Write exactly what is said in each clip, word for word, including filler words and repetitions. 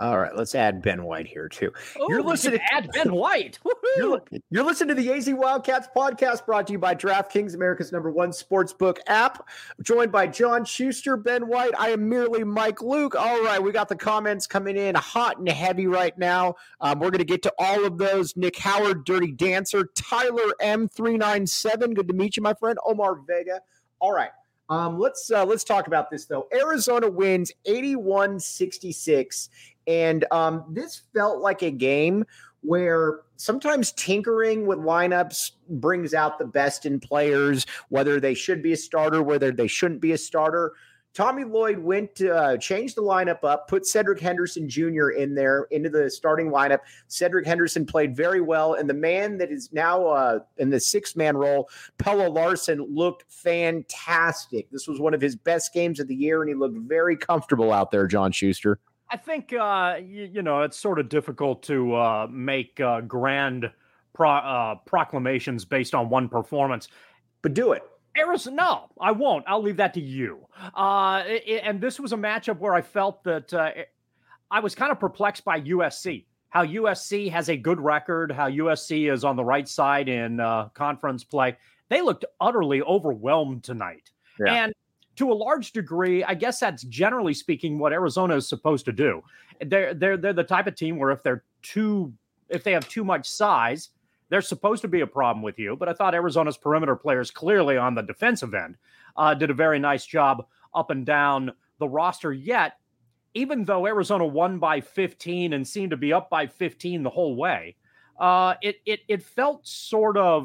All right, let's add Ben White here too. Oh, you're listening to add Ben White. you're, you're listening to the A Z Wildcats podcast, brought to you by DraftKings, America's number one sportsbook app. Joined by John Schuster, Ben White. I am merely Mike Luke. All right, we got the comments coming in hot and heavy right now. Um, we're going to get to all of those. Nick Howard, Dirty Dancer, Tyler M three nine seven. Good to meet you, my friend. Omar Vega. All right. Um, let's uh, let's talk about this, though. Arizona wins eighty-one sixty-six, and um, this felt like a game where sometimes tinkering with lineups brings out the best in players, whether they should be a starter, whether they shouldn't be a starter. Tommy Lloyd went to uh, change the lineup up, put Cedric Henderson Junior in there into the starting lineup. Cedric Henderson played very well, and the man that is now uh, in the six-man role, Pelle Larsson, looked fantastic. This was one of his best games of the year, and he looked very comfortable out there, John Schuster. I think, uh, you, you know, it's sort of difficult to uh, make uh, grand pro- uh, proclamations based on one performance. But do it. Arizona, no, I won't. I'll leave that to you. Uh, it, and this was a matchup where I felt that uh, I was kind of perplexed by U S C, how U S C has a good record, how U S C is on the right side in uh, conference play. They looked utterly overwhelmed tonight. Yeah. And to a large degree, I guess that's generally speaking what Arizona is supposed to do. They're, they're, they're the type of team where if they're too, if they have too much size, there's supposed to be a problem with you, but I thought Arizona's perimeter players clearly on the defensive end uh, did a very nice job up and down the roster. Yet, even though Arizona won by fifteen and seemed to be up by fifteen the whole way, uh, it it it felt sort of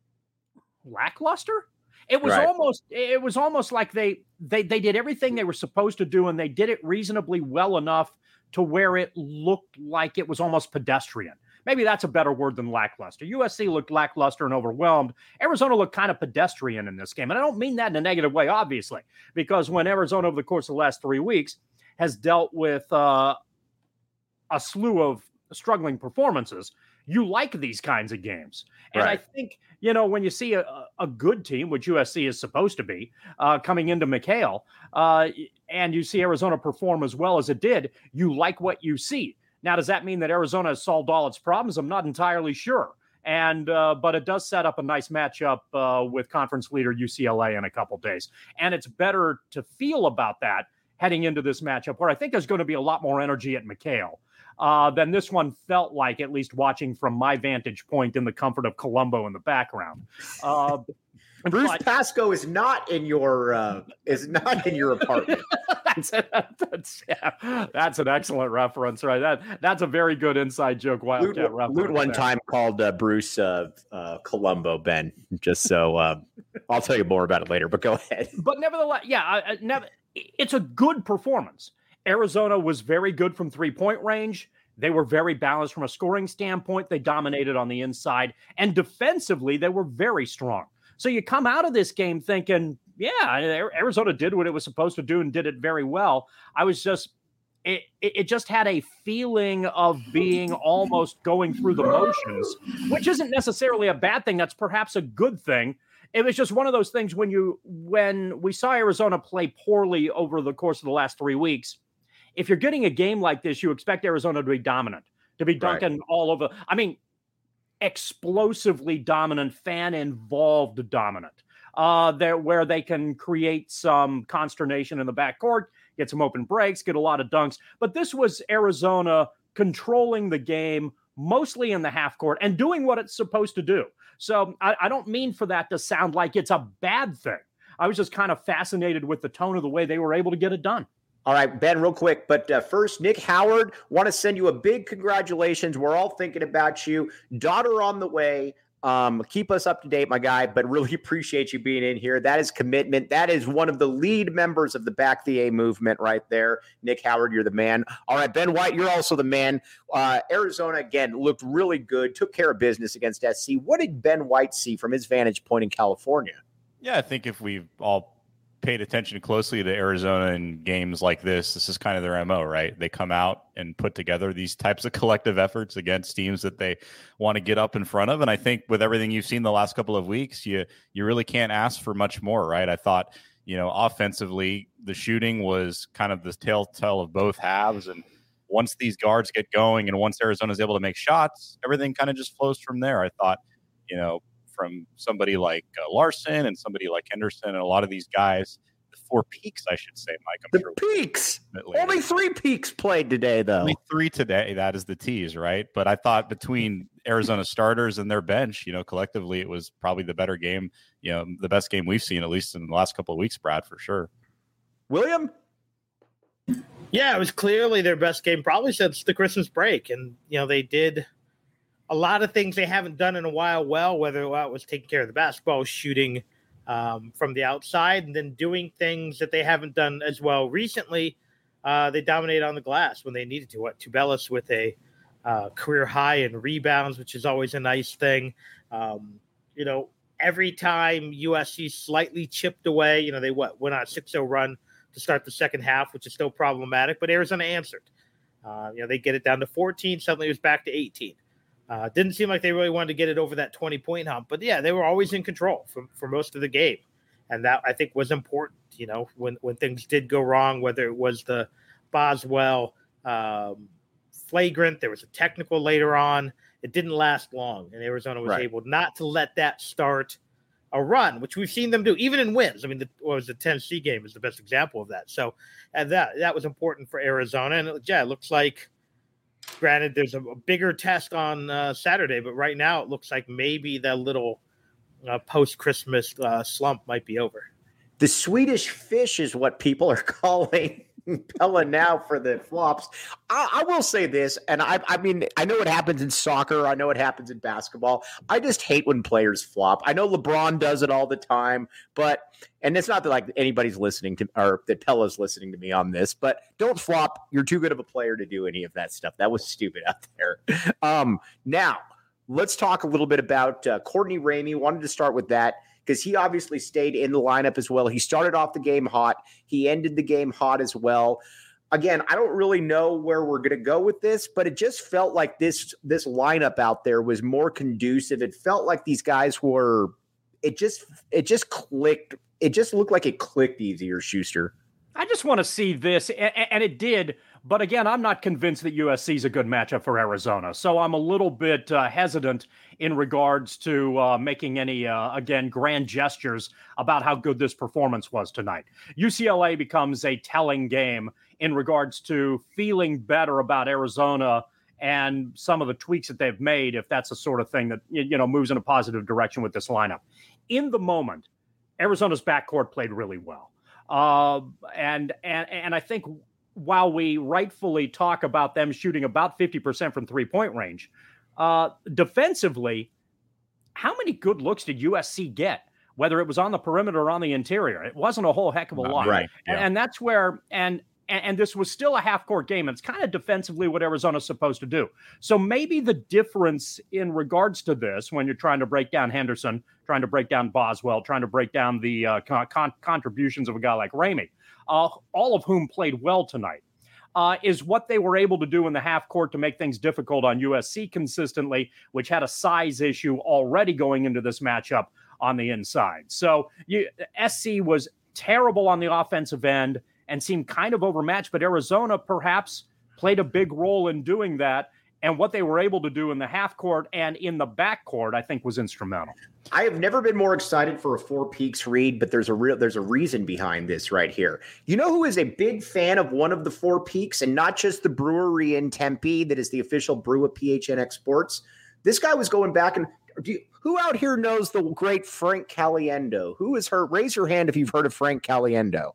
lackluster. It was right. almost it was almost like they they they did everything they were supposed to do, and they did it reasonably well enough to where it looked like it was almost pedestrian. Maybe that's a better word than lackluster. U S C looked lackluster and overwhelmed. Arizona looked kind of pedestrian in this game. And I don't mean that in a negative way, obviously, because when Arizona over the course of the last three weeks has dealt with uh, a slew of struggling performances, you like these kinds of games. And right. I think, you know, when you see a, a good team, which U S C is supposed to be, uh, coming into McHale, uh, and you see Arizona perform as well as it did, you like what you see. Now, does that mean that Arizona has solved all its problems? I'm not entirely sure. And uh, but it does set up a nice matchup uh, with conference leader U C L A in a couple days. And it's better to feel about that heading into this matchup, where I think there's going to be a lot more energy at McHale uh, than this one felt like, at least watching from my vantage point in the comfort of Colombo in the background. Uh, Bruce but, Pascoe is not in your uh, is not in your apartment. that's, a, that's, yeah, that's an excellent reference, right? That that's a very good inside joke. Wildcat Lute, reference. Lute one there. time called uh, Bruce uh, uh, Colombo, Ben. Just so uh, I'll tell you more about it later. But go ahead. But nevertheless, yeah, I, I never. It's a good performance. Arizona was very good from three point range. They were very balanced from a scoring standpoint. They dominated on the inside, and defensively, they were very strong. So you come out of this game thinking, yeah, Arizona did what it was supposed to do and did it very well. I was just, it, it just had a feeling of being almost going through the motions, which isn't necessarily a bad thing. That's perhaps a good thing. It was just one of those things when you, when we saw Arizona play poorly over the course of the last three weeks, if you're getting a game like this, you expect Arizona to be dominant, to be dunking right. all over. I mean, explosively dominant, fan-involved dominant, uh, there where they can create some consternation in the backcourt, get some open breaks, get a lot of dunks. But this was Arizona controlling the game, mostly in the half court, and doing what it's supposed to do. So I, I don't mean for that to sound like it's a bad thing. I was just kind of fascinated with the tone of the way they were able to get it done. All right, Ben, real quick, but uh, first, Nick Howard, want to send you a big congratulations. We're all thinking about you. Daughter on the way. Um, keep us up to date, my guy, but really appreciate you being in here. That is commitment. That is one of the lead members of the Back the A movement right there. Nick Howard, you're the man. All right, Ben White, you're also the man. Uh, Arizona, again, looked really good, took care of business against S C. What did Ben White see from his vantage point in California? Yeah, I think if we've all paid attention closely to Arizona in games like this, this is kind of their M O, right? They come out and put together these types of collective efforts against teams that they want to get up in front of. And I think with everything you've seen the last couple of weeks, you you really can't ask for much more, right? I thought, you know, offensively, the shooting was kind of the telltale of both halves. And once these guards get going and once Arizona is able to make shots, everything kind of just flows from there. I thought, you know, from somebody like uh, Larson and somebody like Henderson and a lot of these guys, the four peaks, I should say, Mike. I'm the sure peaks. Only three peaks played today, though. Only three today. That is the tease, right? But I thought between Arizona starters and their bench, you know, collectively, it was probably the better game, you know, the best game we've seen, at least in the last couple of weeks, Brad, for sure. William? Yeah, it was clearly their best game probably since the Christmas break. And, you know, they did a lot of things they haven't done in a while well, whether well, it was taking care of the basketball, shooting um, from the outside, and then doing things that they haven't done as well recently. Uh, they dominated on the glass when they needed to. What Tubelis with a uh, career high in rebounds, which is always a nice thing. Um, you know, every time U S C slightly chipped away, you know, they what went on a six oh run to start the second half, which is still problematic, but Arizona answered. Uh, you know, they get it down to fourteen. Suddenly it was back to eighteen. Uh, didn't seem like they really wanted to get it over that twenty-point hump. But, yeah, they were always in control for, for most of the game. And that, I think, was important, you know, when, when things did go wrong, whether it was the Boswell um, flagrant, there was a technical later on. It didn't last long, and Arizona was right. able not to let that start a run, which we've seen them do, even in wins. I mean, the, what was the Tennessee game is the best example of that. So and that that was important for Arizona. And, it, yeah, it looks like, granted, there's a, a bigger test on uh, Saturday, but right now it looks like maybe that little uh, post-Christmas uh, slump might be over. The Swedish fish is what people are calling Pella now for the flops. I, I will say this, and I, I mean, I know it happens in soccer. I know it happens in basketball. I just hate when players flop. I know LeBron does it all the time, but, and it's not that like anybody's listening to, or that Pella's listening to me on this, but don't flop. You're too good of a player to do any of that stuff. That was stupid out there. Um, now, let's talk a little bit about uh, Courtney Ramey. Wanted to start with that, because he obviously stayed in the lineup as well. He started off the game hot. He ended the game hot as well. Again, I don't really know where we're going to go with this, but it just felt like this this lineup out there was more conducive. It felt like these guys were – it just it just clicked. It just looked like it clicked easier, Schuster. I just want to see this, and, and it did. But again, I'm not convinced that U S C is a good matchup for Arizona. So I'm a little bit uh, hesitant in regards to uh, making any, uh, again, grand gestures about how good this performance was tonight. U C L A becomes a telling game in regards to feeling better about Arizona and some of the tweaks that they've made, if that's the sort of thing that, you know, moves in a positive direction with this lineup. In the moment, Arizona's backcourt played really well. Uh, and, and, and I think while we rightfully talk about them shooting about fifty percent from three-point range, uh, defensively, how many good looks did U S C get, whether it was on the perimeter or on the interior? It wasn't a whole heck of a Not lot. Right. Yeah. And, and that's where – and and this was still a half-court game. And it's kind of defensively what Arizona's supposed to do. So maybe the difference in regards to this, when you're trying to break down Henderson, trying to break down Boswell, trying to break down the uh, con- contributions of a guy like Ramey, uh, all of whom played well tonight, uh, is what they were able to do in the half court to make things difficult on U S C consistently, which had a size issue already going into this matchup on the inside. So you, S C was terrible on the offensive end and seemed kind of overmatched, but Arizona perhaps played a big role in doing that. And what they were able to do in the half court and in the back court, I think, was instrumental. I have never been more excited for a Four Peaks read, but there's a real there's a reason behind this right here. You know who is a big fan of one of the Four Peaks, and not just the brewery in Tempe that is the official brew of P H N X Sports? This guy was going back and do you, who out here knows the great Frank Caliendo? Who is her? Raise your hand if you've heard of Frank Caliendo.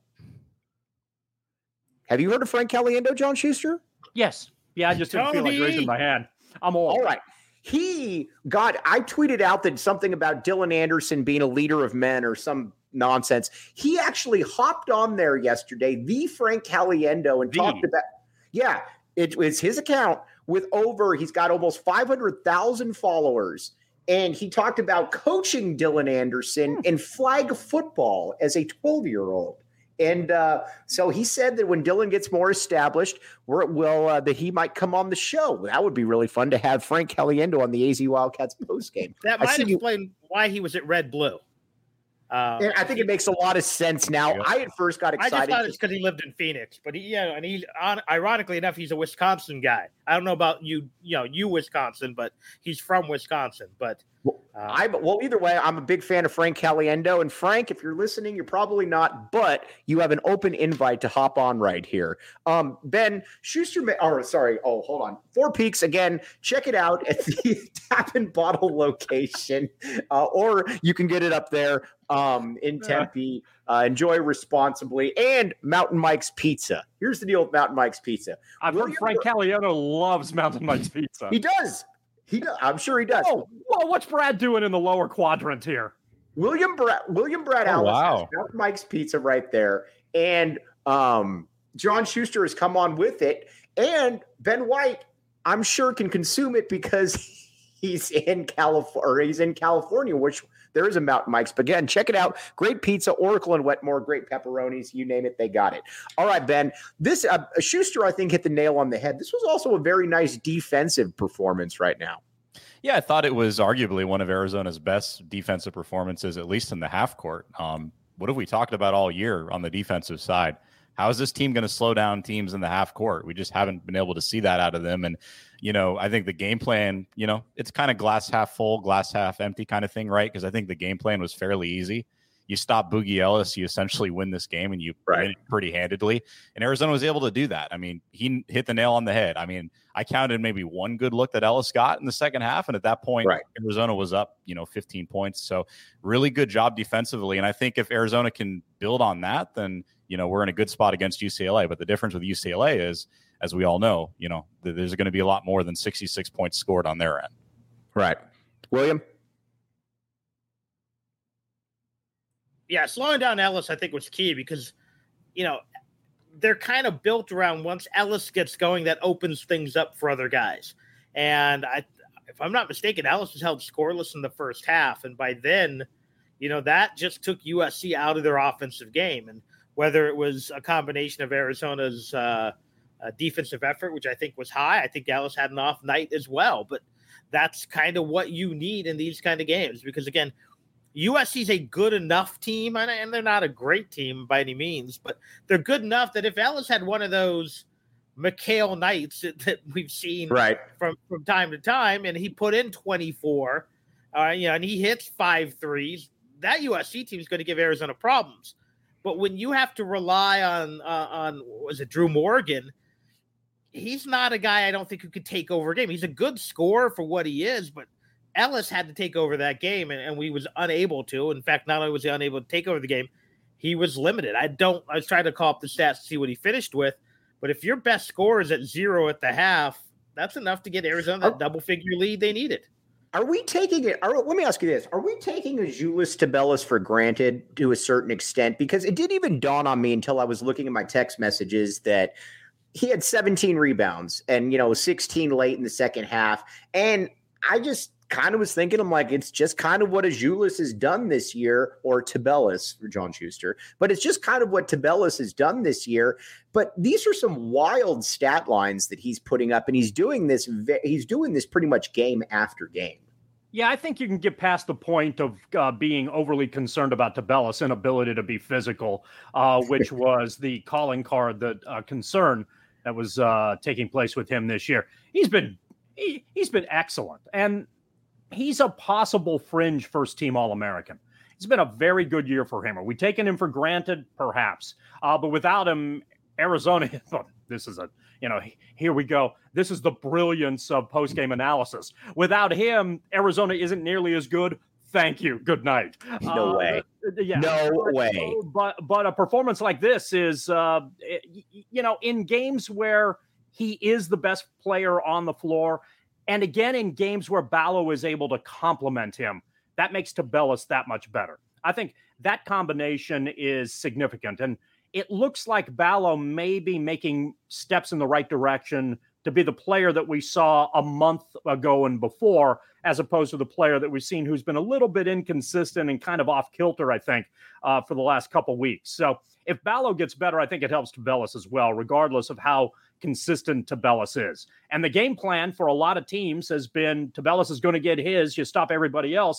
Have you heard of Frank Caliendo, John Schuster? Yes. Yeah, I just didn't feel like raising my hand. I'm old. All right. He got, I tweeted out that something about Dylan Anderson being a leader of men or some nonsense. He actually hopped on there yesterday, the Frank Caliendo, and the. talked about, yeah, it was his account with over, he's got almost five hundred thousand followers. And he talked about coaching Dylan Anderson hmm. in flag football as a twelve-year-old. And uh, so he said that when Dylan gets more established, we're, well, uh, that he might come on the show. That would be really fun to have Frank Caliendo on the A Z Wildcats postgame. That might explain you- why he was at Red Blue. Uh, and I think it makes a lot of sense now. Yep. I at first got I excited. just thought it's because he lived in Phoenix, but he, yeah, and he, on, ironically enough, he's a Wisconsin guy. I don't know about you, you know, you Wisconsin, but he's from Wisconsin. But uh, I well, either way, I'm a big fan of Frank Caliendo. And Frank, if you're listening, you're probably not, but you have an open invite to hop on right here. Um, Ben Schuster, or sorry, oh, hold on. Four Peaks again. Check it out at the Tap and Bottle location, uh, or you can get it up there. Um, in Tempe, uh, enjoy responsibly, and Mountain Mike's Pizza. Here's the deal with Mountain Mike's Pizza. I've William heard Frank Caliendo loves Mountain Mike's Pizza. He does. He does. I'm sure he does. Oh, well, what's Brad doing in the lower quadrant here? William Brad, William Brad Oh, Allen wow. has Mountain Mike's Pizza right there, and um, John Schuster has come on with it, and Ben White, I'm sure, can consume it because he's in California. He's in California, which there is a Mountain Mike's. But again, check it out. Great pizza, Oracle and Wetmore, great pepperonis. You name it, they got it. All right, Ben. This uh, Schuster, I think, hit the nail on the head. This was also a very nice defensive performance right now. Yeah, I thought it was arguably one of Arizona's best defensive performances, at least in the half court. Um, what have we talked about all year on the defensive side? How is this team going to slow down teams in the half court? We just haven't been able to see that out of them. And, you know, I think the game plan, you know, it's kind of glass half full, glass half empty kind of thing, right? Because I think the game plan was fairly easy. You stop Boogie Ellis, you essentially win this game, and you Right. win it pretty handedly. And Arizona was able to do that. I mean, he hit the nail on the head. I mean, I counted maybe one good look that Ellis got in the second half, and at that point, Right. Arizona was up, you know, fifteen points. So really good job defensively. And I think if Arizona can build on that, then, you know, we're in a good spot against U C L A. But the difference with U C L A is, as we all know, you know, th- there's going to be a lot more than sixty-six points scored on their end. Right. William? yeah, slowing down Ellis, I think, was key because, you know, they're kind of built around once Ellis gets going, that opens things up for other guys. And I, if I'm not mistaken, Ellis was held scoreless in the first half. And by then, you know, that just took U S C out of their offensive game. And whether it was a combination of Arizona's uh, uh, defensive effort, which I think was high, I think Ellis had an off night as well. But that's kind of what you need in these kind of games because, again, U S C is a good enough team, and they're not a great team by any means, but they're good enough that if Ellis had one of those McHale nights that, that we've seen Right. from, from time to time, and he put in twenty-four, uh, you know, and he hits five threes, that U S C team is going to give Arizona problems. But when you have to rely on, uh, on was it Drew Morgan, he's not a guy I don't think who could take over a game. He's a good scorer for what he is, but Ellis had to take over that game, and, and we was unable to. In fact, not only was he unable to take over the game, he was limited. I don't. I was trying to call up the stats to see what he finished with, but if your best score is at zero at the half, that's enough to get Arizona that double-figure lead they needed. Are we taking it? Are, let me ask you this: Are we taking Azuolas Tubelis for granted to a certain extent? Because it didn't even dawn on me until I was looking at my text messages that he had seventeen rebounds and you know sixteen late in the second half, and I just kind of was thinking, I'm like, it's just kind of what Azuolas has done this year, or Tubelis for John Schuster, but it's just kind of what Tubelis has done this year. But these are some wild stat lines that he's putting up, and he's doing this. He's doing this pretty much game after game. Yeah, I think you can get past the point of uh, being overly concerned about Tubelis' inability to be physical, uh, which was the calling card that uh, concern that was uh, taking place with him this year. He's been he, he's been excellent, and he's a possible fringe first-team All-American. It's been a very good year for him. Are we taking him for granted? Perhaps. Uh, but without him, Arizona, this is a, you know, here we go. This is the brilliance of post-game analysis. Without him, Arizona isn't nearly as good. Thank you. Good night. No uh, way. Yeah. No but, way. But, but a performance like this is, uh, you know, in games where he is the best player on the floor, and again, in games where Ballo is able to complement him, that makes Tubelis that much better. I think that combination is significant. And it looks like Ballo may be making steps in the right direction to be the player that we saw a month ago and before, as opposed to the player that we've seen who's been a little bit inconsistent and kind of off kilter, I think, uh, for the last couple weeks. So if Ballo gets better, I think it helps Tubelis as well, regardless of how consistent Tubelis is. And the game plan for a lot of teams has been Tubelis is going to get his, you stop everybody else.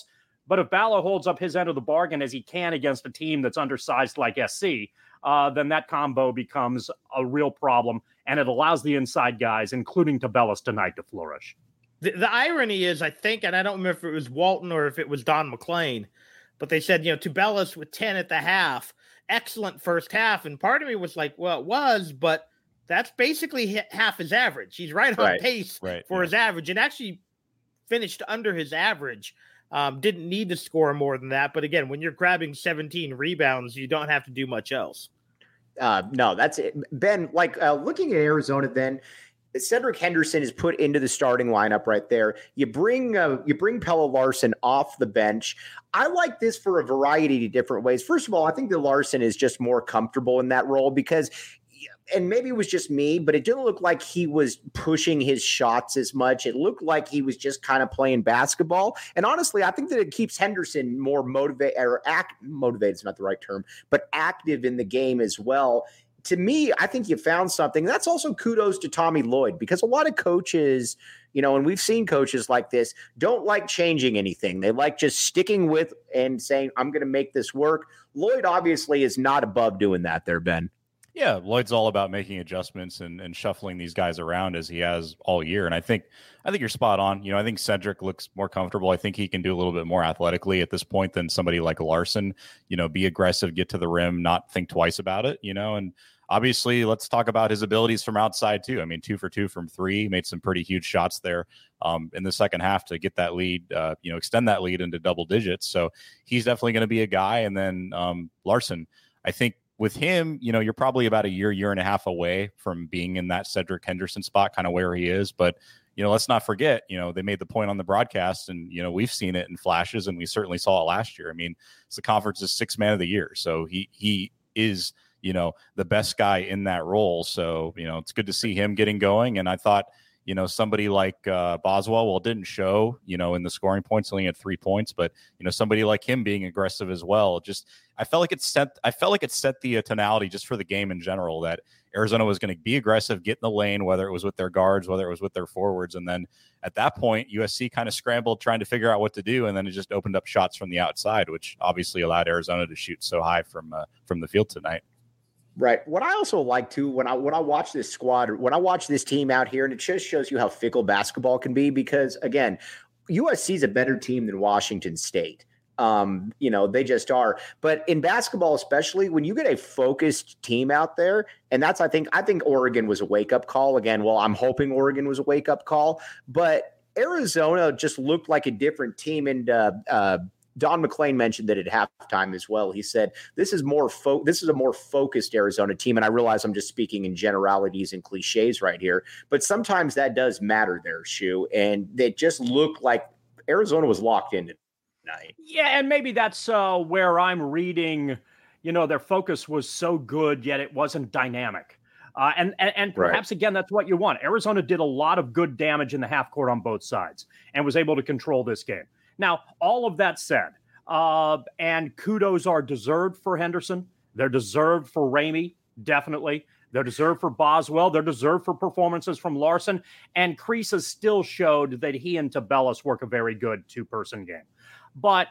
But if Ballo holds up his end of the bargain as he can against a team that's undersized like S C, uh, then that combo becomes a real problem, and it allows the inside guys, including Tubelis tonight, to flourish. The, the irony is, I think, and I don't remember if it was Walton or if it was Don McLean, but they said, you know, Tubelis with ten at the half, excellent first half. And part of me was like, well, it was, but that's basically half his average. He's right on right. pace right. for yeah. his average, and actually finished under his average. Um, didn't need to score more than that. But again, when you're grabbing seventeen rebounds, you don't have to do much else. Uh, no, that's it. Ben, like uh, looking at Arizona, then Cedric Henderson is put into the starting lineup right there. You bring uh, you bring Pelle Larsson off the bench. I like this for a variety of different ways. First of all, I think that Larsson is just more comfortable in that role because, and maybe it was just me, but it didn't look like he was pushing his shots as much. It looked like he was just kind of playing basketball. And honestly, I think that it keeps Henderson more motivated, or act motivated is not the right term, but active in the game as well. To me, I think you found something. That's also kudos to Tommy Lloyd, because a lot of coaches, you know, and we've seen coaches like this, don't like changing anything. They like just sticking with and saying, I'm going to make this work. Lloyd obviously is not above doing that there, Ben. Yeah, Lloyd's all about making adjustments and, and shuffling these guys around as he has all year. And I think I think you're spot on. You know, I think Cedric looks more comfortable. I think he can do a little bit more athletically at this point than somebody like Larsson. You know, be aggressive, get to the rim, not think twice about it, you know, and obviously, let's talk about his abilities from outside, too. I mean, two for two from three, made some pretty huge shots there um, in the second half to get that lead, uh, you know, extend that lead into double digits. So he's definitely going to be a guy. And then um, Larsson, I think with him, you know, you're probably about a year, year and a half away from being in that Cedric Henderson spot, kind of where he is. But, you know, let's not forget, you know, they made the point on the broadcast and, you know, we've seen it in flashes and we certainly saw it last year. I mean, it's the conference's sixth man of the year. So he he is, you know, the best guy in that role. So, you know, it's good to see him getting going. And I thought, you know, somebody like uh, Boswell, well, it didn't show, you know, in the scoring points, only had three points, but, you know, somebody like him being aggressive as well. Just, I felt like it set, I felt like it set the uh, tonality just for the game in general, that Arizona was going to be aggressive, get in the lane, whether it was with their guards, whether it was with their forwards. And then at that point, U S C kind of scrambled trying to figure out what to do. And then it just opened up shots from the outside, which obviously allowed Arizona to shoot so high from, uh, from the field tonight. Right. What I also like too, when I when I watch this squad, when I watch this team out here, and it just shows you how fickle basketball can be, because again, U S C is a better team than Washington State. Um, you know, they just are. But in basketball, especially when you get a focused team out there, and that's I think I think Oregon was a wake up call again. Well, I'm hoping Oregon was a wake up call, but Arizona just looked like a different team. And uh, uh, Don McLean mentioned that at halftime as well. He said, this is more fo- this is a more focused Arizona team. And I realize I'm just speaking in generalities and cliches right here, but sometimes that does matter there, Shu. And they just looked like Arizona was locked in tonight. Yeah, and maybe that's uh, where I'm reading, you know, their focus was so good, yet it wasn't dynamic. Uh, and, and and perhaps, right. again, that's what you want. Arizona did a lot of good damage in the half court on both sides and was able to control this game. Now, all of that said, uh, and kudos are deserved for Henderson. They're deserved for Ramey, definitely. They're deserved for Boswell. They're deserved for performances from Larsson. And Kriisa still showed that he and Tubelis work a very good two-person game. But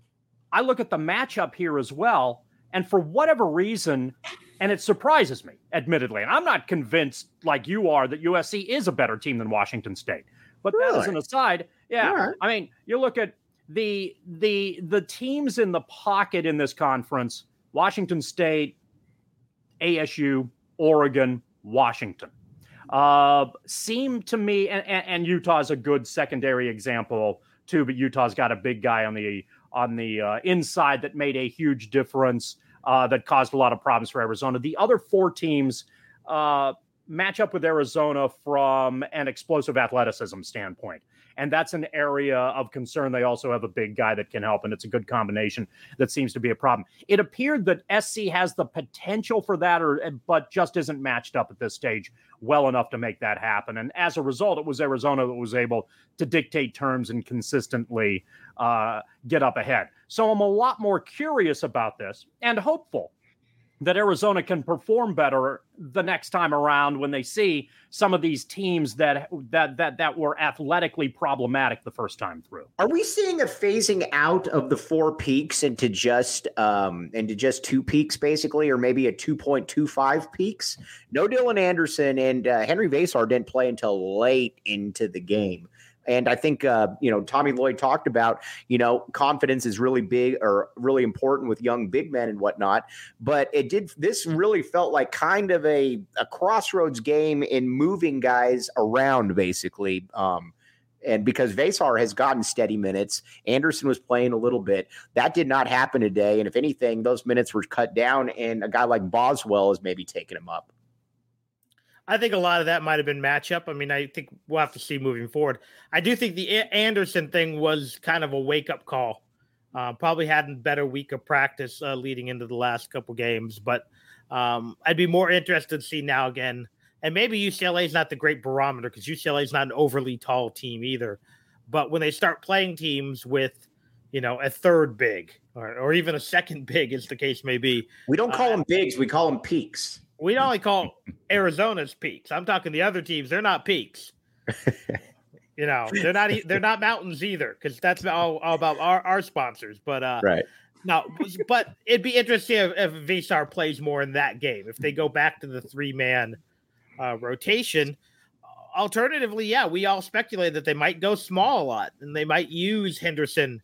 I look at the matchup here as well, and for whatever reason, and it surprises me, admittedly, and I'm not convinced like you are that U S C is a better team than Washington State. But really? That is an aside. Yeah. Right. I mean, you look at the the the teams in the pocket in this conference, Washington State, A S U, Oregon, Washington, uh, seem to me, and, and Utah's a good secondary example too, but Utah's got a big guy on the on the uh, inside that made a huge difference, uh, that caused a lot of problems for Arizona. The other four teams uh, match up with Arizona from an explosive athleticism standpoint. And that's an area of concern. They also have a big guy that can help, and it's a good combination that seems to be a problem. It appeared that S C has the potential for that, or but just isn't matched up at this stage well enough to make that happen. And as a result, it was Arizona that was able to dictate terms and consistently uh, get up ahead. So I'm a lot more curious about this and hopeful that Arizona can perform better the next time around when they see some of these teams that that that that were athletically problematic the first time through. Are we seeing a phasing out of the four peaks into just um, into just two peaks, basically, or maybe a two point two five peaks? No Dylan Anderson and uh, Henry Vasar didn't play until late into the game. And I think, uh, you know, Tommy Lloyd talked about, you know, confidence is really big or really important with young big men and whatnot. But it did, this really felt like kind of a, a crossroads game in moving guys around, basically. Um, and because Vasar has gotten steady minutes, Anderson was playing a little bit. That did not happen today. And if anything, those minutes were cut down, and a guy like Boswell is maybe taking him up. I think a lot of that might have been matchup. I mean, I think we'll have to see moving forward. I do think the Anderson thing was kind of a wake-up call. Uh, probably had a better week of practice uh, leading into the last couple games, but um, I'd be more interested to see now again. And maybe U C L A is not the great barometer because U C L A is not an overly tall team either. But when they start playing teams with, you know, a third big or, or even a second big, as the case may be. We don't call uh, them bigs. We call them peaks. We only call Arizona's peaks. I'm talking the other teams. They're not peaks. You know, they're not. They're not mountains either, because that's all, all about our, our sponsors. But uh, right. No, but it'd be interesting if, if Vasar plays more in that game. If they go back to the three man uh, rotation. Alternatively, yeah, we all speculate that they might go small a lot, and they might use Henderson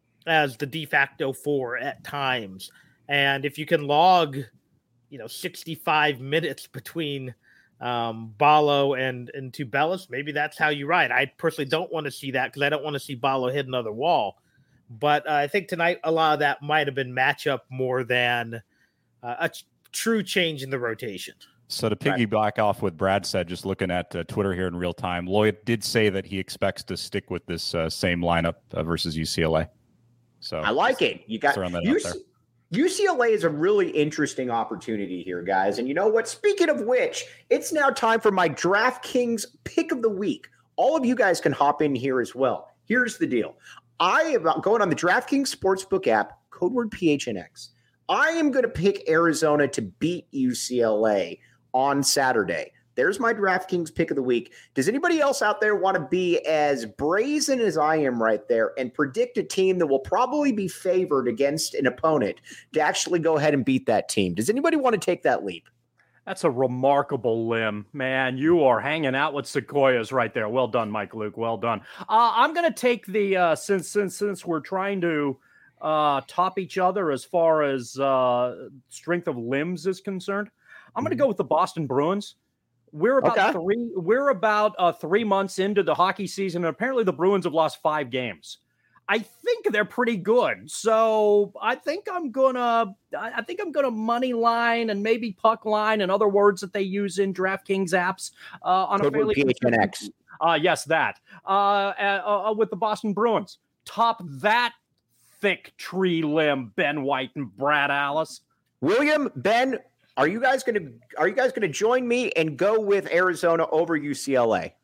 as the de facto four at times. And if you can log, you know, sixty-five minutes between um, Ballo and, and Tubelis, maybe that's how you ride. I personally don't want to see that because I don't want to see Ballo hit another wall. But uh, I think tonight a lot of that might have been matchup more than uh, a ch- true change in the rotation. So to piggyback off what Brad said, just looking at uh, Twitter here in real time, Lloyd did say that he expects to stick with this uh, same lineup uh, versus U C L A. So I like it. You got U C- U C L A is a really interesting opportunity here, guys. And you know what? Speaking of which, it's now time for my DraftKings pick of the week. All of you guys can hop in here as well. Here's the deal. I am going on the DraftKings Sportsbook app, code word P H N X. I am going to pick Arizona to beat U C L A on Saturday. There's my DraftKings pick of the week. Does anybody else out there want to be as brazen as I am right there and predict a team that will probably be favored against an opponent to actually go ahead and beat that team? Does anybody want to take that leap? That's a remarkable limb, man. You are hanging out with sequoias right there. Well done, Mike Luke. Well done. Uh, I'm going to take the uh, since since since we're trying to uh, top each other as far as uh, strength of limbs is concerned. I'm going to go with the Boston Bruins. We're about okay. three. We're about uh, three months into the hockey season, and apparently the Bruins have lost five games. I think they're pretty good, so I think I'm gonna. I think I'm gonna money line and maybe puck line and other words that they use in DraftKings apps uh, on Code a fairly. P H N X. Uh, yes, that uh, uh, uh, with the Boston Bruins. Top that thick tree limb, Ben White and Brad Alice. William, Ben. Are you guys going to are you guys going to join me and go with Arizona over U C L A?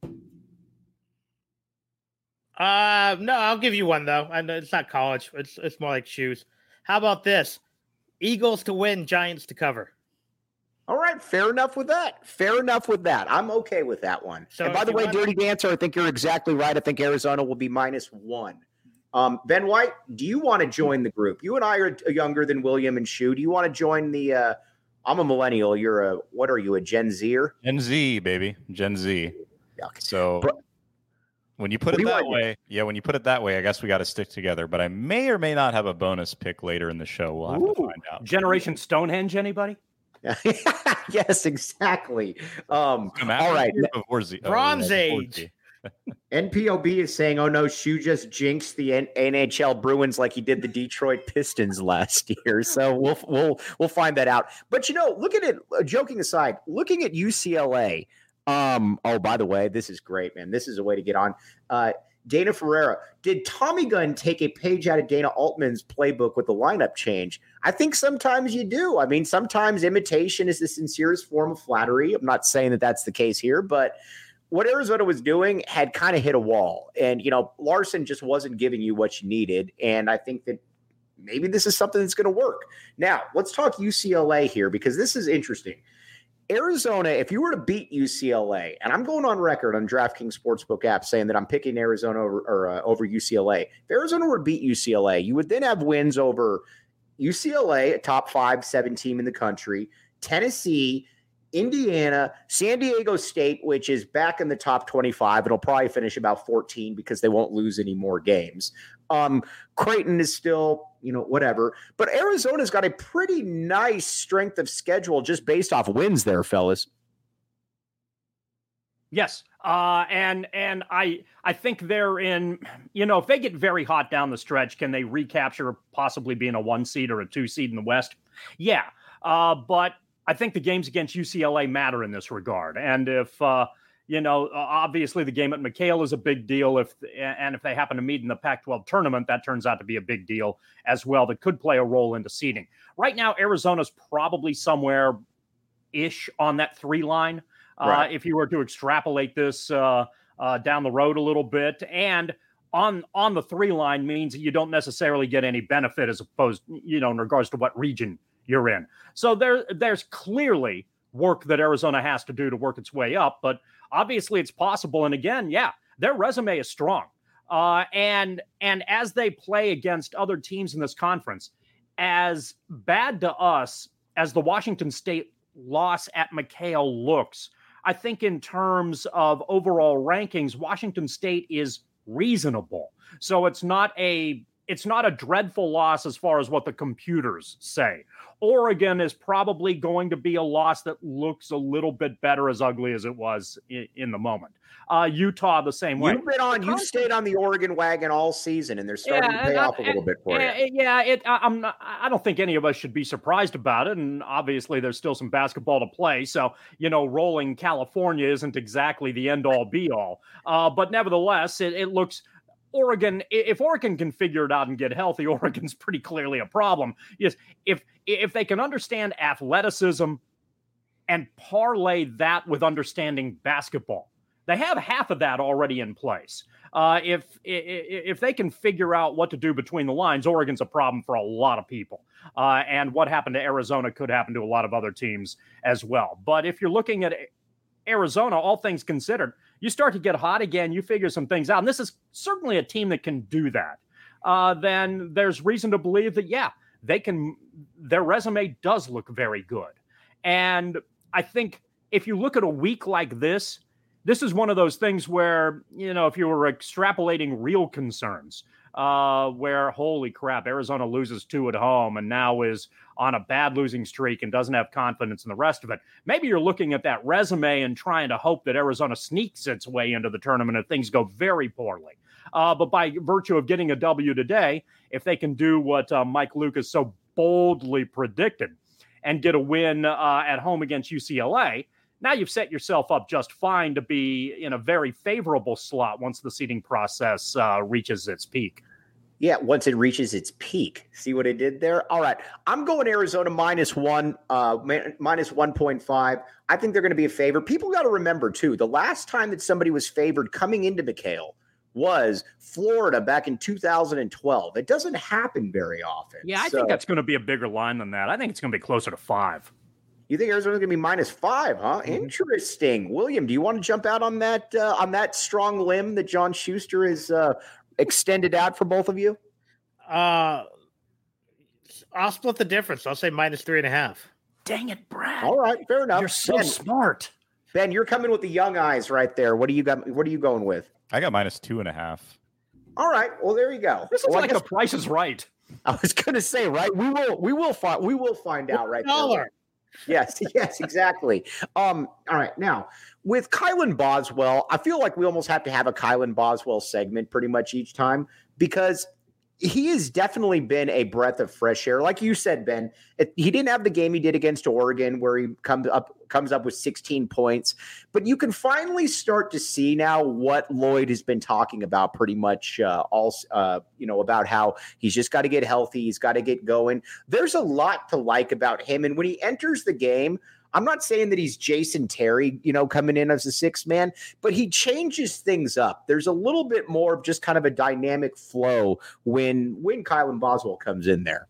Uh, no, I'll give you one though. I know it's not college. It's it's more like shoes. How about this? Eagles to win, Giants to cover. All right, fair enough with that. Fair enough with that. I'm okay with that one. So and by the way, Dirty to- Dancer, I think you're exactly right. I think Arizona will be minus one. Um, Ben White, do you want to join the group? You and I are younger than William and Shu. Do you want to join the uh, I'm a millennial. You're a, what are you, a Gen Zer? Gen Z, baby. Gen Z. Yeah. So but, when you put it that way, yeah, when you put it that way, I guess we got to stick together. But I may or may not have a bonus pick later in the show. We'll have Ooh. to find out. Generation Stonehenge, anybody? Yes, exactly. Um, all right. Bronze Age. N P O B is saying, oh no, Shu just jinxed the N- NHL Bruins like he did the Detroit Pistons last year. So we'll we'll we'll find that out. But you know, look at it. Uh, joking aside, looking at U C L A. Um, oh, by the way, this is great, man. This is a way to get on. Uh, Dana Ferreira, did Tommy Gunn take a page out of Dana Altman's playbook with the lineup change? I think sometimes you do. I mean, sometimes imitation is the sincerest form of flattery. I'm not saying that that's the case here, but what Arizona was doing had kind of hit a wall. And, you know, Larson just wasn't giving you what you needed. And I think that maybe this is something that's going to work. Now, let's talk U C L A here because this is interesting. Arizona, if you were to beat U C L A, and I'm going on record on DraftKings Sportsbook app saying that I'm picking Arizona over, or, uh, over U C L A. If Arizona were to beat U C L A, you would then have wins over U C L A, a top five, seven team in the country, Tennessee, Indiana, San Diego State, which is back in the top twenty-five. It'll probably finish about fourteen because they won't lose any more games. Um, Creighton is still, you know, whatever. But Arizona's got a pretty nice strength of schedule just based off wins there, fellas. Yes. Uh, and and I I think they're in, you know, if they get very hot down the stretch, can they recapture possibly being a one seed or a two seed in the West? Yeah. Uh, but I think the games against U C L A matter in this regard. And if, uh, you know, obviously the game at McHale is a big deal. If and if they happen to meet in the Pac twelve tournament, that turns out to be a big deal as well. That could play a role into seeding. Right now, Arizona's probably somewhere ish on that three line. Right. Uh, if you were to extrapolate this uh, uh, down the road a little bit, and on on the three line means that you don't necessarily get any benefit as opposed, you know, in regards to what region you're in. So there there's clearly work that Arizona has to do to work its way up, but obviously it's possible. And again, yeah, their resume is strong. Uh, and and as they play against other teams in this conference, as bad to us as the Washington State loss at McHale looks, I think in terms of overall rankings, Washington State is reasonable. So it's not a it's not a dreadful loss as far as what the computers say. Oregon is probably going to be a loss that looks a little bit better, as ugly as it was in, in the moment. Uh, Utah the same way. You've been on, you stayed on the Oregon wagon all season, and they're starting yeah, to pay off I, a little bit for yeah, you. Yeah, it, I'm not, I don't think any of us should be surprised about it, and obviously there's still some basketball to play, so, you know, rolling California isn't exactly the end-all, be-all. Uh, but nevertheless, it, it looks... Oregon, if Oregon can figure it out and get healthy, Oregon's pretty clearly a problem. Yes, if if they can understand athleticism and parlay that with understanding basketball, they have half of that already in place. Uh, if if they can figure out what to do between the lines, Oregon's a problem for a lot of people. Uh, and what happened to Arizona could happen to a lot of other teams as well. But if you're looking at Arizona, all things considered, you start to get hot again, you figure some things out, and this is certainly a team that can do that, uh, then there's reason to believe that, yeah, they can, their resume does look very good. And I think if you look at a week like this, this is one of those things where, you know, if you were extrapolating real concerns, uh, where, holy crap, Arizona loses two at home and now is on a bad losing streak and doesn't have confidence in the rest of it. Maybe you're looking at that resume and trying to hope that Arizona sneaks its way into the tournament if things go very poorly. Uh, but by virtue of getting a W today, if they can do what uh, Mike Lucas so boldly predicted and get a win uh, at home against U C L A, now you've set yourself up just fine to be in a very favorable slot once the seeding process uh, reaches its peak. Yeah, once it reaches its peak. See what I did there? All right. I'm going Arizona minus one, uh, minus one point five. I think they're going to be a favorite. People got to remember, too, the last time that somebody was favored coming into McHale was Florida back in two thousand twelve. It doesn't happen very often. Yeah, I so, think that's going to be a bigger line than that. I think it's going to be closer to five. You think Arizona's going to be minus five, huh? Mm-hmm. Interesting. William, do you want to jump out on that uh, on that strong limb that John Schuster is uh, extended out for both of you? Uh, I'll split the difference. I'll say minus three and a half. Dang it, Brad. All right, fair enough. You're so Ben, smart. Ben, you're coming with the young eyes right there. What do you got? What are you going with? I got minus two and a half. All right. Well, there you go. This is well, like the Price is Right. I was going to say, right? We will. We will find. We will find out right there. Yes, yes, exactly. Um, all right. Now, with Kylan Boswell, I feel like we almost have to have a Kylan Boswell segment pretty much each time because he has definitely been a breath of fresh air. Like you said, Ben, it, he didn't have the game he did against Oregon where he comes up comes up with sixteen points. But you can finally start to see now what Lloyd has been talking about pretty much uh, all, uh, you know, about how he's just got to get healthy. He's got to get going. There's a lot to like about him. And when he enters the game, I'm not saying that he's Jason Terry, you know, coming in as a sixth man, but he changes things up. There's a little bit more of just kind of a dynamic flow when when Kylan Boswell comes in there.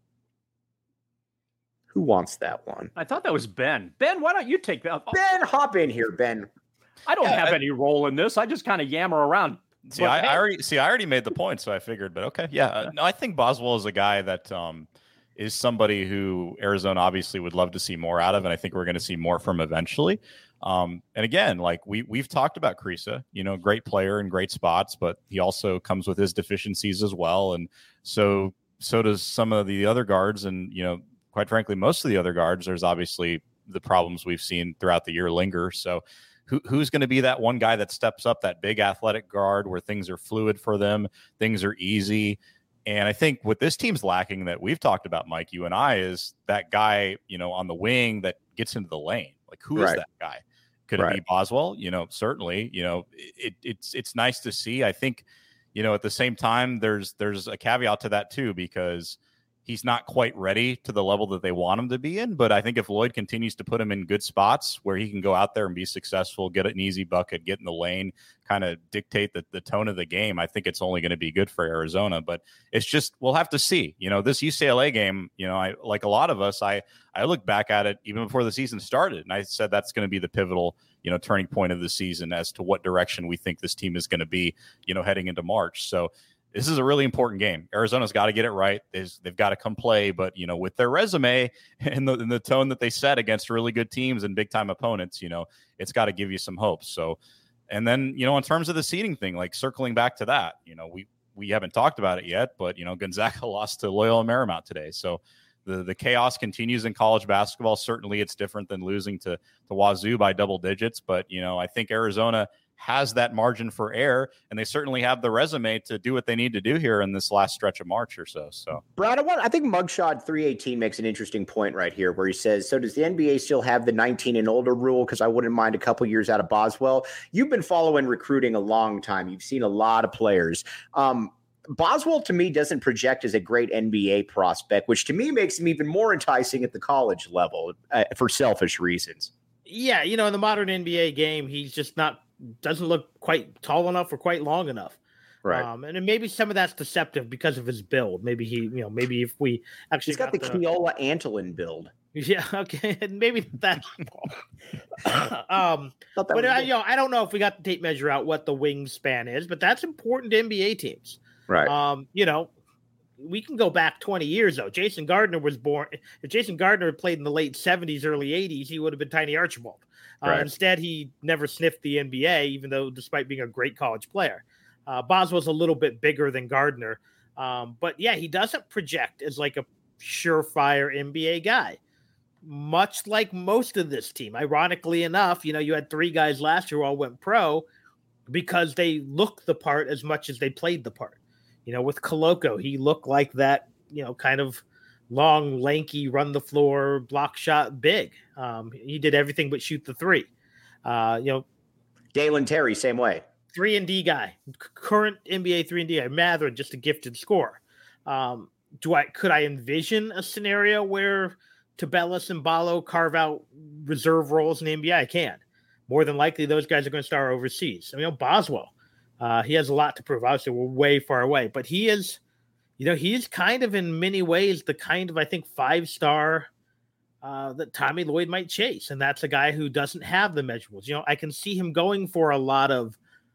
Who wants that one? I thought that was Ben. Ben, why don't you take that? Ben, hop in here, Ben. I don't Yeah, have I, any role in this. I just kind of yammer around. See, But, I, hey, I already see. I already made the point, so I figured. But okay, yeah. Uh, no, I think Boswell is a guy that um, is somebody who Arizona obviously would love to see more out of, and I think we're going to see more from eventually. Um, and again, like we we've talked about Kriisa, you know, great player in great spots, but he also comes with his deficiencies as well, and so so does some of the other guards, and you know, quite frankly, most of the other guards. There's obviously the problems we've seen throughout the year linger. So. Who, who's going to be that one guy that steps up, that big athletic guard where things are fluid for them, things are easy? And I think what this team's lacking that we've talked about, Mike, you and I, is that guy, you know, on the wing that gets into the lane. Like, who is Right. that guy? Could Right. it be Boswell? You know, certainly, you know, it, it's, it's nice to see. I think, you know, at the same time, there's, there's a caveat to that too, because he's not quite ready to the level that they want him to be in. But I think if Lloyd continues to put him in good spots where he can go out there and be successful, get an easy bucket, get in the lane, kind of dictate the, the tone of the game, I think it's only going to be good for Arizona. But it's just, we'll have to see. You know, this U C L A game, you know, I like a lot of us, I, I look back at it even before the season started, and I said that's going to be the pivotal, you know, turning point of the season as to what direction we think this team is going to be, you know, heading into March. So this is a really important game. Arizona's got to get it right. They've, they've got to come play, but you know, with their resume and the, and the tone that they set against really good teams and big time opponents, you know, it's got to give you some hope. So, and then, you know, in terms of the seeding thing, like circling back to that, you know, we, we haven't talked about it yet, but you know, Gonzaga lost to Loyola Marymount today. So the, the chaos continues in college basketball. Certainly it's different than losing to, to Wazoo by double digits, but you know, I think Arizona has that margin for error, and they certainly have the resume to do what they need to do here in this last stretch of March or so. So, Brad, I, want, I think Mugshot three eighteen makes an interesting point right here where he says, so does the N B A still have the nineteen and older rule? Because I wouldn't mind a couple years out of Boswell. You've been following recruiting a long time. You've seen a lot of players. Um, Boswell, to me, doesn't project as a great N B A prospect, which to me makes him even more enticing at the college level uh, for selfish reasons. Yeah, you know, in the modern N B A game, he's just not doesn't look quite tall enough or quite long enough. Right. Um, and then maybe some of that's deceptive because of his build. Maybe he, you know, maybe if we actually He's got, got the, the Keola Antolin build. Yeah. Okay. And maybe that. um, that but I, you know, I don't know if we got the tape measure out what the wingspan is, but that's important to N B A teams. Right. Um, you know, we can go back twenty years though. Jason Gardner was born. If Jason Gardner had played in the late seventies, early eighties, he would have been Tiny Archibald. Uh, right. Instead, he never sniffed the N B A, even though despite being a great college player. Uh, Boswell's a little bit bigger than Gardner. Um, but yeah, he doesn't project as like a surefire N B A guy, much like most of this team. Ironically enough, you know, you had three guys last year who all went pro because they looked the part as much as they played the part. You know, with Koloko, he looked like that, you know, kind of long, lanky, run the floor, block shot big. Um, he did everything but shoot the three. Uh, you know, Dalen Terry, same way. Three and D guy, current N B A three and D guy. Mathurin, just a gifted scorer. Um, do I could I envision a scenario where Tubelis and Ballo carve out reserve roles in the N B A? I can. More than likely, those guys are going to start overseas. I mean, you know, Boswell, uh, he has a lot to prove. Obviously, we're way far away, but he is. You know, he's kind of in many ways the kind of, I think, five-star uh, that Tommy Lloyd might chase. And that's a guy who doesn't have the measurables. You know, I can see him going for a lot of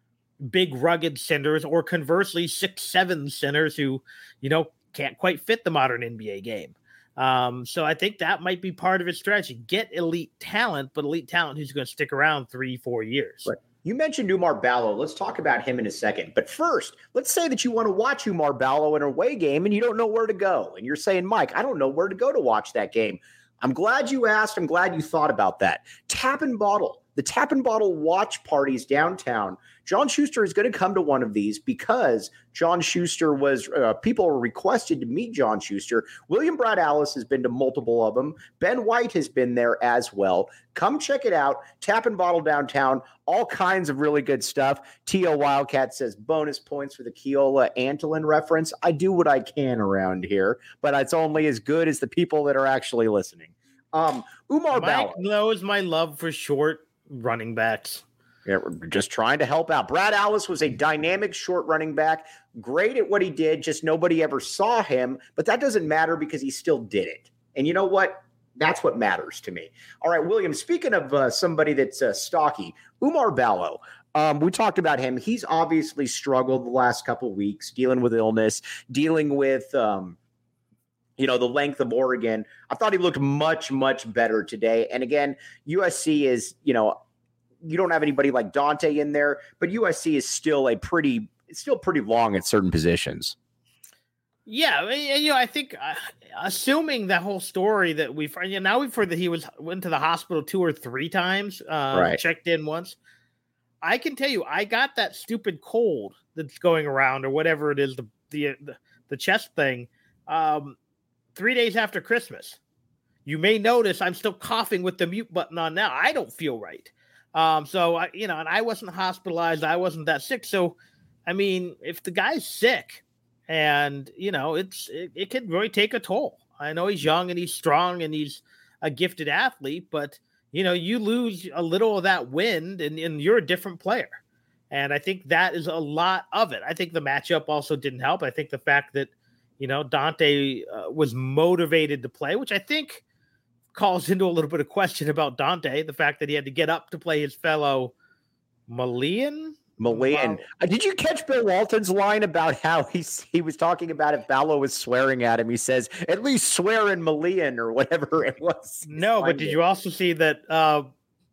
big, rugged centers or conversely six, seven centers who, you know, can't quite fit the modern N B A game. Um, so I think that might be part of his strategy. Get elite talent, but elite talent who's going to stick around three, four years. Right. You mentioned Umar Ballo. Let's talk about him in a second. But first, let's say that you want to watch Umar Ballo in an away game and you don't know where to go. And you're saying, Mike, I don't know where to go to watch that game. I'm glad you asked. I'm glad you thought about that. Tap and Bottle. The Tap and Bottle watch parties downtown. John Schuster is going to come to one of these because John Schuster was, uh, people were requested to meet John Schuster. William Brad Alice has been to multiple of them. Ben White has been there as well. Come check it out. Tap and Bottle downtown. All kinds of really good stuff. T O Wildcat says bonus points for the Keola Antolin reference. I do what I can around here, but it's only as good as the people that are actually listening. Um, Umar Mike Ballo knows my love for short running backs. Yeah, we're just trying to help out. Brad Allis was a dynamic short running back, great at what he did, just nobody ever saw him. But that doesn't matter because he still did it. And you know what? That's what matters to me. All right, William, speaking of uh, somebody that's uh, stocky, Umar Ballo. Um, we talked about him. He's obviously struggled the last couple of weeks, dealing with illness, dealing with, um, you know, the length of Oregon. I thought he looked much, much better today. And again, U S C is, you know, you don't have anybody like Dante in there, but U S C is still a pretty, it's still pretty long at certain positions. Yeah, you know, I think uh, assuming that whole story that we've you know, now we've heard that he was went to the hospital two or three times, uh, Right. checked in once. I can tell you, I got that stupid cold that's going around or whatever it is, the the the, the chest thing, um, three days after Christmas. You may notice I'm still coughing with the mute button on now. I don't feel right. Um, so I, you know, and I wasn't hospitalized. I wasn't that sick. So, I mean, if the guy's sick and, you know, it's, it, it can really take a toll. I know he's young and he's strong and he's a gifted athlete, but you know, you lose a little of that wind and, and you're a different player. And I think that is a lot of it. I think the matchup also didn't help. I think the fact that, you know, Dante uh, was motivated to play, which I think calls into a little bit of question about Dante, the fact that he had to get up to play his fellow Malian. Malayan. Uh, did you catch Bill Walton's line about how he he was talking about if Ballo was swearing at him? He says, at least swear in Malayan or whatever it was. No, but did you also see that uh,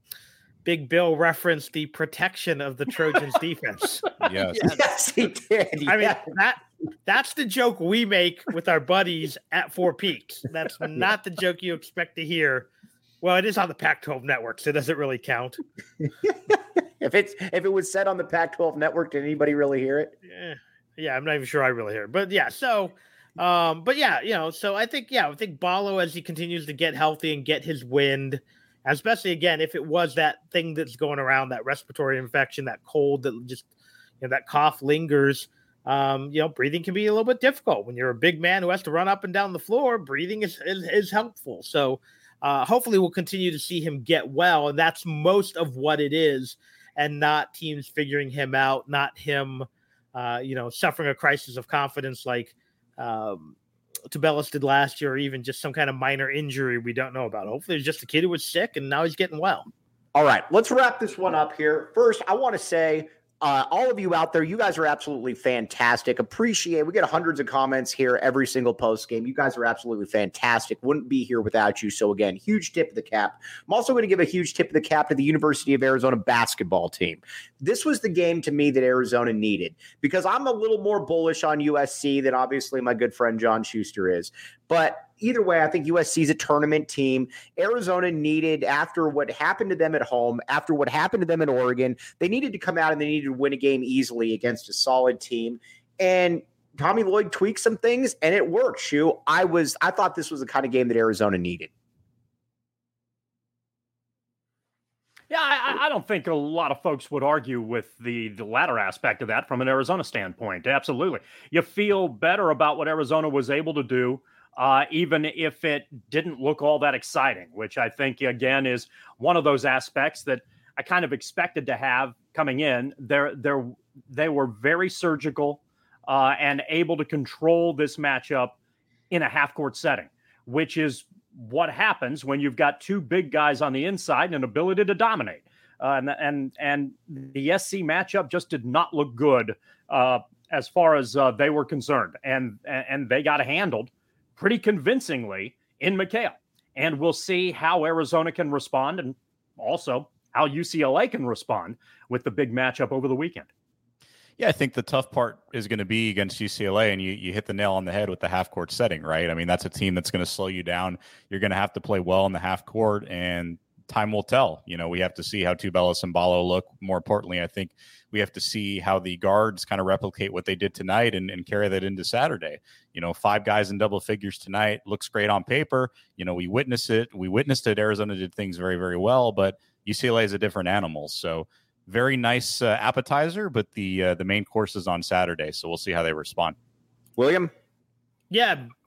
Big Bill referenced the protection of the Trojans defense? Yes. Yes, he did. I mean, Yeah. that that's the joke we make with our buddies at Four Peaks. That's not the joke you expect to hear. Well, it is on the Pac twelve network, so does it really count? If it's if it was said on the Pac twelve network, did anybody really hear it? Yeah, yeah, I'm not even sure I really hear it. But yeah, so um, but yeah, you know, so I think yeah, I think Ballo as he continues to get healthy and get his wind, especially again, if it was that thing that's going around, that respiratory infection, that cold that just you know, that cough lingers. Um, you know, breathing can be a little bit difficult when you're a big man who has to run up and down the floor. Breathing is is, is helpful. So uh, hopefully we'll continue to see him get well, and that's most of what it is, and not teams figuring him out, not him, uh, you know, suffering a crisis of confidence like um, Tubelis did last year, or even just some kind of minor injury we don't know about. Hopefully it's just a kid who was sick and now he's getting well. All right, let's wrap this one up here. First, I want to say, uh, all of you out there, you guys are absolutely fantastic. Appreciate. We get hundreds of comments here every single post game. You guys are absolutely fantastic. Wouldn't be here without you. So again, huge tip of the cap. I'm also going to give a huge tip of the cap to the University of Arizona basketball team. This was the game to me that Arizona needed, because I'm a little more bullish on U S C than obviously my good friend John Schuster is. But either way, I think U S C is a tournament team. Arizona needed, after what happened to them at home, after what happened to them in Oregon, they needed to come out and they needed to win a game easily against a solid team. And Tommy Lloyd tweaked some things, and it worked. Shu, I was, I thought this was the kind of game that Arizona needed. Yeah, I, I don't think a lot of folks would argue with the, the latter aspect of that from an Arizona standpoint. Absolutely. You feel better about what Arizona was able to do, uh, even if it didn't look all that exciting, which I think, again, is one of those aspects that I kind of expected to have coming in. They're, they're, they were very surgical uh, and able to control this matchup in a half-court setting, which is what happens when you've got two big guys on the inside and an ability to dominate. Uh, and, and, and the S C matchup just did not look good uh, as far as uh, they were concerned. And, and they got handled pretty convincingly in McHale. And we'll see how Arizona can respond, and also how U C L A can respond with the big matchup over the weekend. Yeah, I think the tough part is going to be against U C L A, and you, you hit the nail on the head with the half-court setting, right? I mean, that's a team that's going to slow you down. You're going to have to play well in the half-court, and time will tell. You know, we have to see how Tubelis and Ballo look. More importantly, I think we have to see how the guards kind of replicate what they did tonight and, and carry that into Saturday. You know, five guys in double figures tonight looks great on paper. You know, we witnessed it. We witnessed it. Arizona did things very, very well, but U C L A is a different animal. So very nice uh, appetizer, but the uh, the main course is on Saturday, so we'll see how they respond. William? Yeah,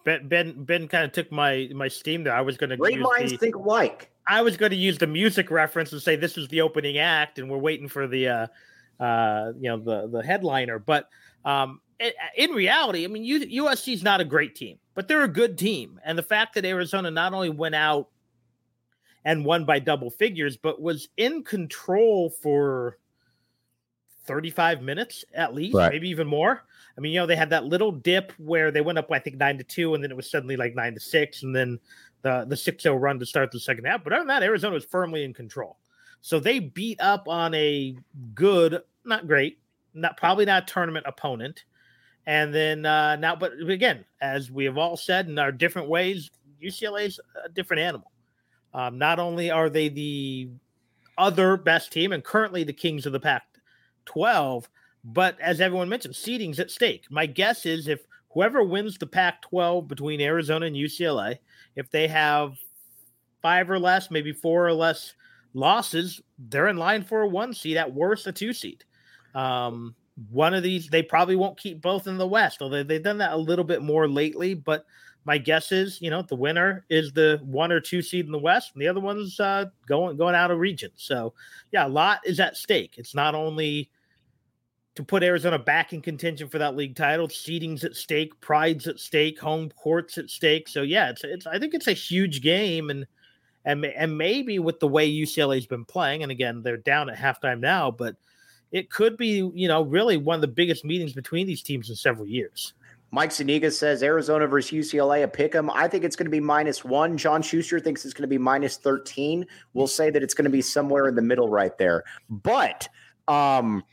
Ben Ben Ben kind of took my my steam there. I was going to Great minds the, think alike. I was going to use the music reference and say this is the opening act, and we're waiting for the uh, uh, you know the the headliner. But um, it, in reality, I mean, U S C is not a great team, but they're a good team, and the fact that Arizona not only went out and won by double figures, but was in control for thirty-five minutes at least, right. maybe even more. I mean, you know, they had that little dip where they went up, I think, nine to two, and then it was suddenly like nine to six, and then the the six oh run to start the second half. But other than that, Arizona was firmly in control. So they beat up on a good, not great, not probably not tournament opponent. And then uh, now, but again, as we have all said in our different ways, U C L A is a different animal. Um, not only are they the other best team and currently the kings of the Pac twelve, but as everyone mentioned, seeding's at stake. My guess is if whoever wins the Pac twelve between Arizona and U C L A, if they have five or less, maybe four or less losses, they're in line for a one seed, at worst a two seed. Um, one of these, they probably won't keep both in the West, although they've done that a little bit more lately. But my guess is, you know, the winner is the one or two seed in the West, and the other one's uh, going going out of region. So, yeah, a lot is at stake. It's not only to put Arizona back in contention for that league title, seeding's at stake, pride's at stake, home court's at stake. So, yeah, it's it's. I think it's a huge game, and and and maybe with the way U C L A's been playing, and again, they're down at halftime now, but it could be, you know, really one of the biggest meetings between these teams in several years. Mike Zuniga says Arizona versus U C L A, a pick 'em. I think it's going to be minus one. John Schuster thinks it's going to be minus thirteen. We'll say that it's going to be somewhere in the middle right there. But um,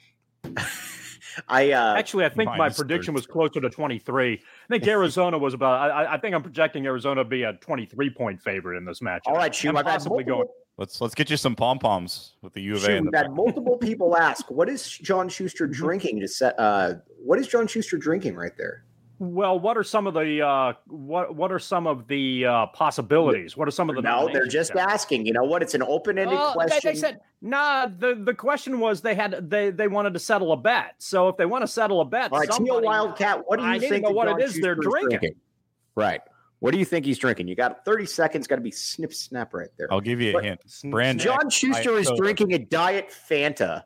I uh, actually, I think my prediction was closer to twenty-three. I think Arizona was about, I, I think I'm projecting Arizona to be a twenty-three point favorite in this match. All right, Shu, I've possibly going. Let's let's get you some pom poms with the U of A. We've had multiple people ask, "What is John Schuster drinking?" To set, uh, what is John Schuster drinking right there? Well, what are some of the uh, what what are some of the uh, possibilities? What are some of the no? They're just there? asking. You know what? It's an open-ended oh, question. They, they said nah. The, the question was they had they they wanted to settle a bet. So if they want to settle a bet, all right, Teal Wildcat, what do you I think? Know what John it is Schuster's they're drinking? drinking? Right. What do you think he's drinking? You got thirty seconds. Got to be snip snap right there. I'll give you a but hint. Brand John Schuster is soda. drinking a Diet Fanta.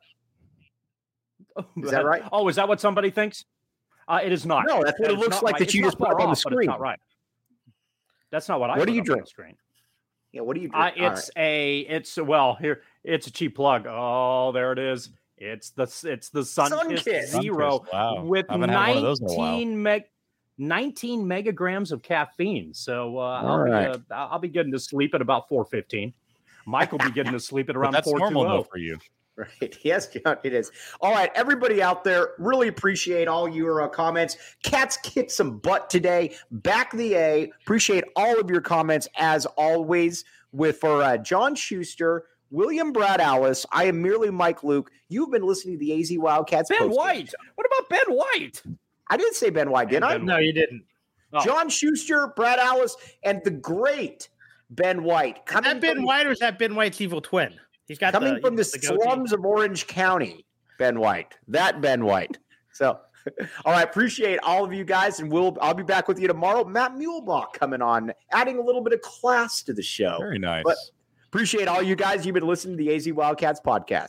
Is that right? Oh, is that what somebody thinks? Uh, it is not. No, that's what that it looks like right. that you just put up on the screen. Not right. That's not what I. What do you drink? On the screen. Yeah, what do you drink? Uh, it's right. a. It's well here. It's a cheap plug. Oh, there it is. It's the it's the Sunkist Zero wow. with nineteen meg. nineteen megagrams of caffeine. So uh, I'll, right. be, uh, I'll be getting to sleep at about four fifteen. Mike will be getting to sleep at around that's four normal though for you. Right. Yes, John, it is. All right, everybody out there, really appreciate all your uh, comments. Cats kicked some butt today. Back the A. Appreciate all of your comments as always. With for uh, John Schuster, William Brad Alice, I am merely Mike Luke. You've been listening to the A Z Wildcats. Ben White. What about Ben White? I didn't say Ben White, did I? No, you didn't. Oh. John Schuster, Brad Alice, and the great Ben White. Is that Ben from, White or is that Ben White's evil twin? He's got coming the, from the, the slums of Orange County. Ben White, that Ben White. So, all right, appreciate all of you guys, and we'll I'll be back with you tomorrow. Matt Muehlbach coming on, adding a little bit of class to the show. Very nice. But appreciate all you guys. You've been listening to the A Z Wildcats podcast.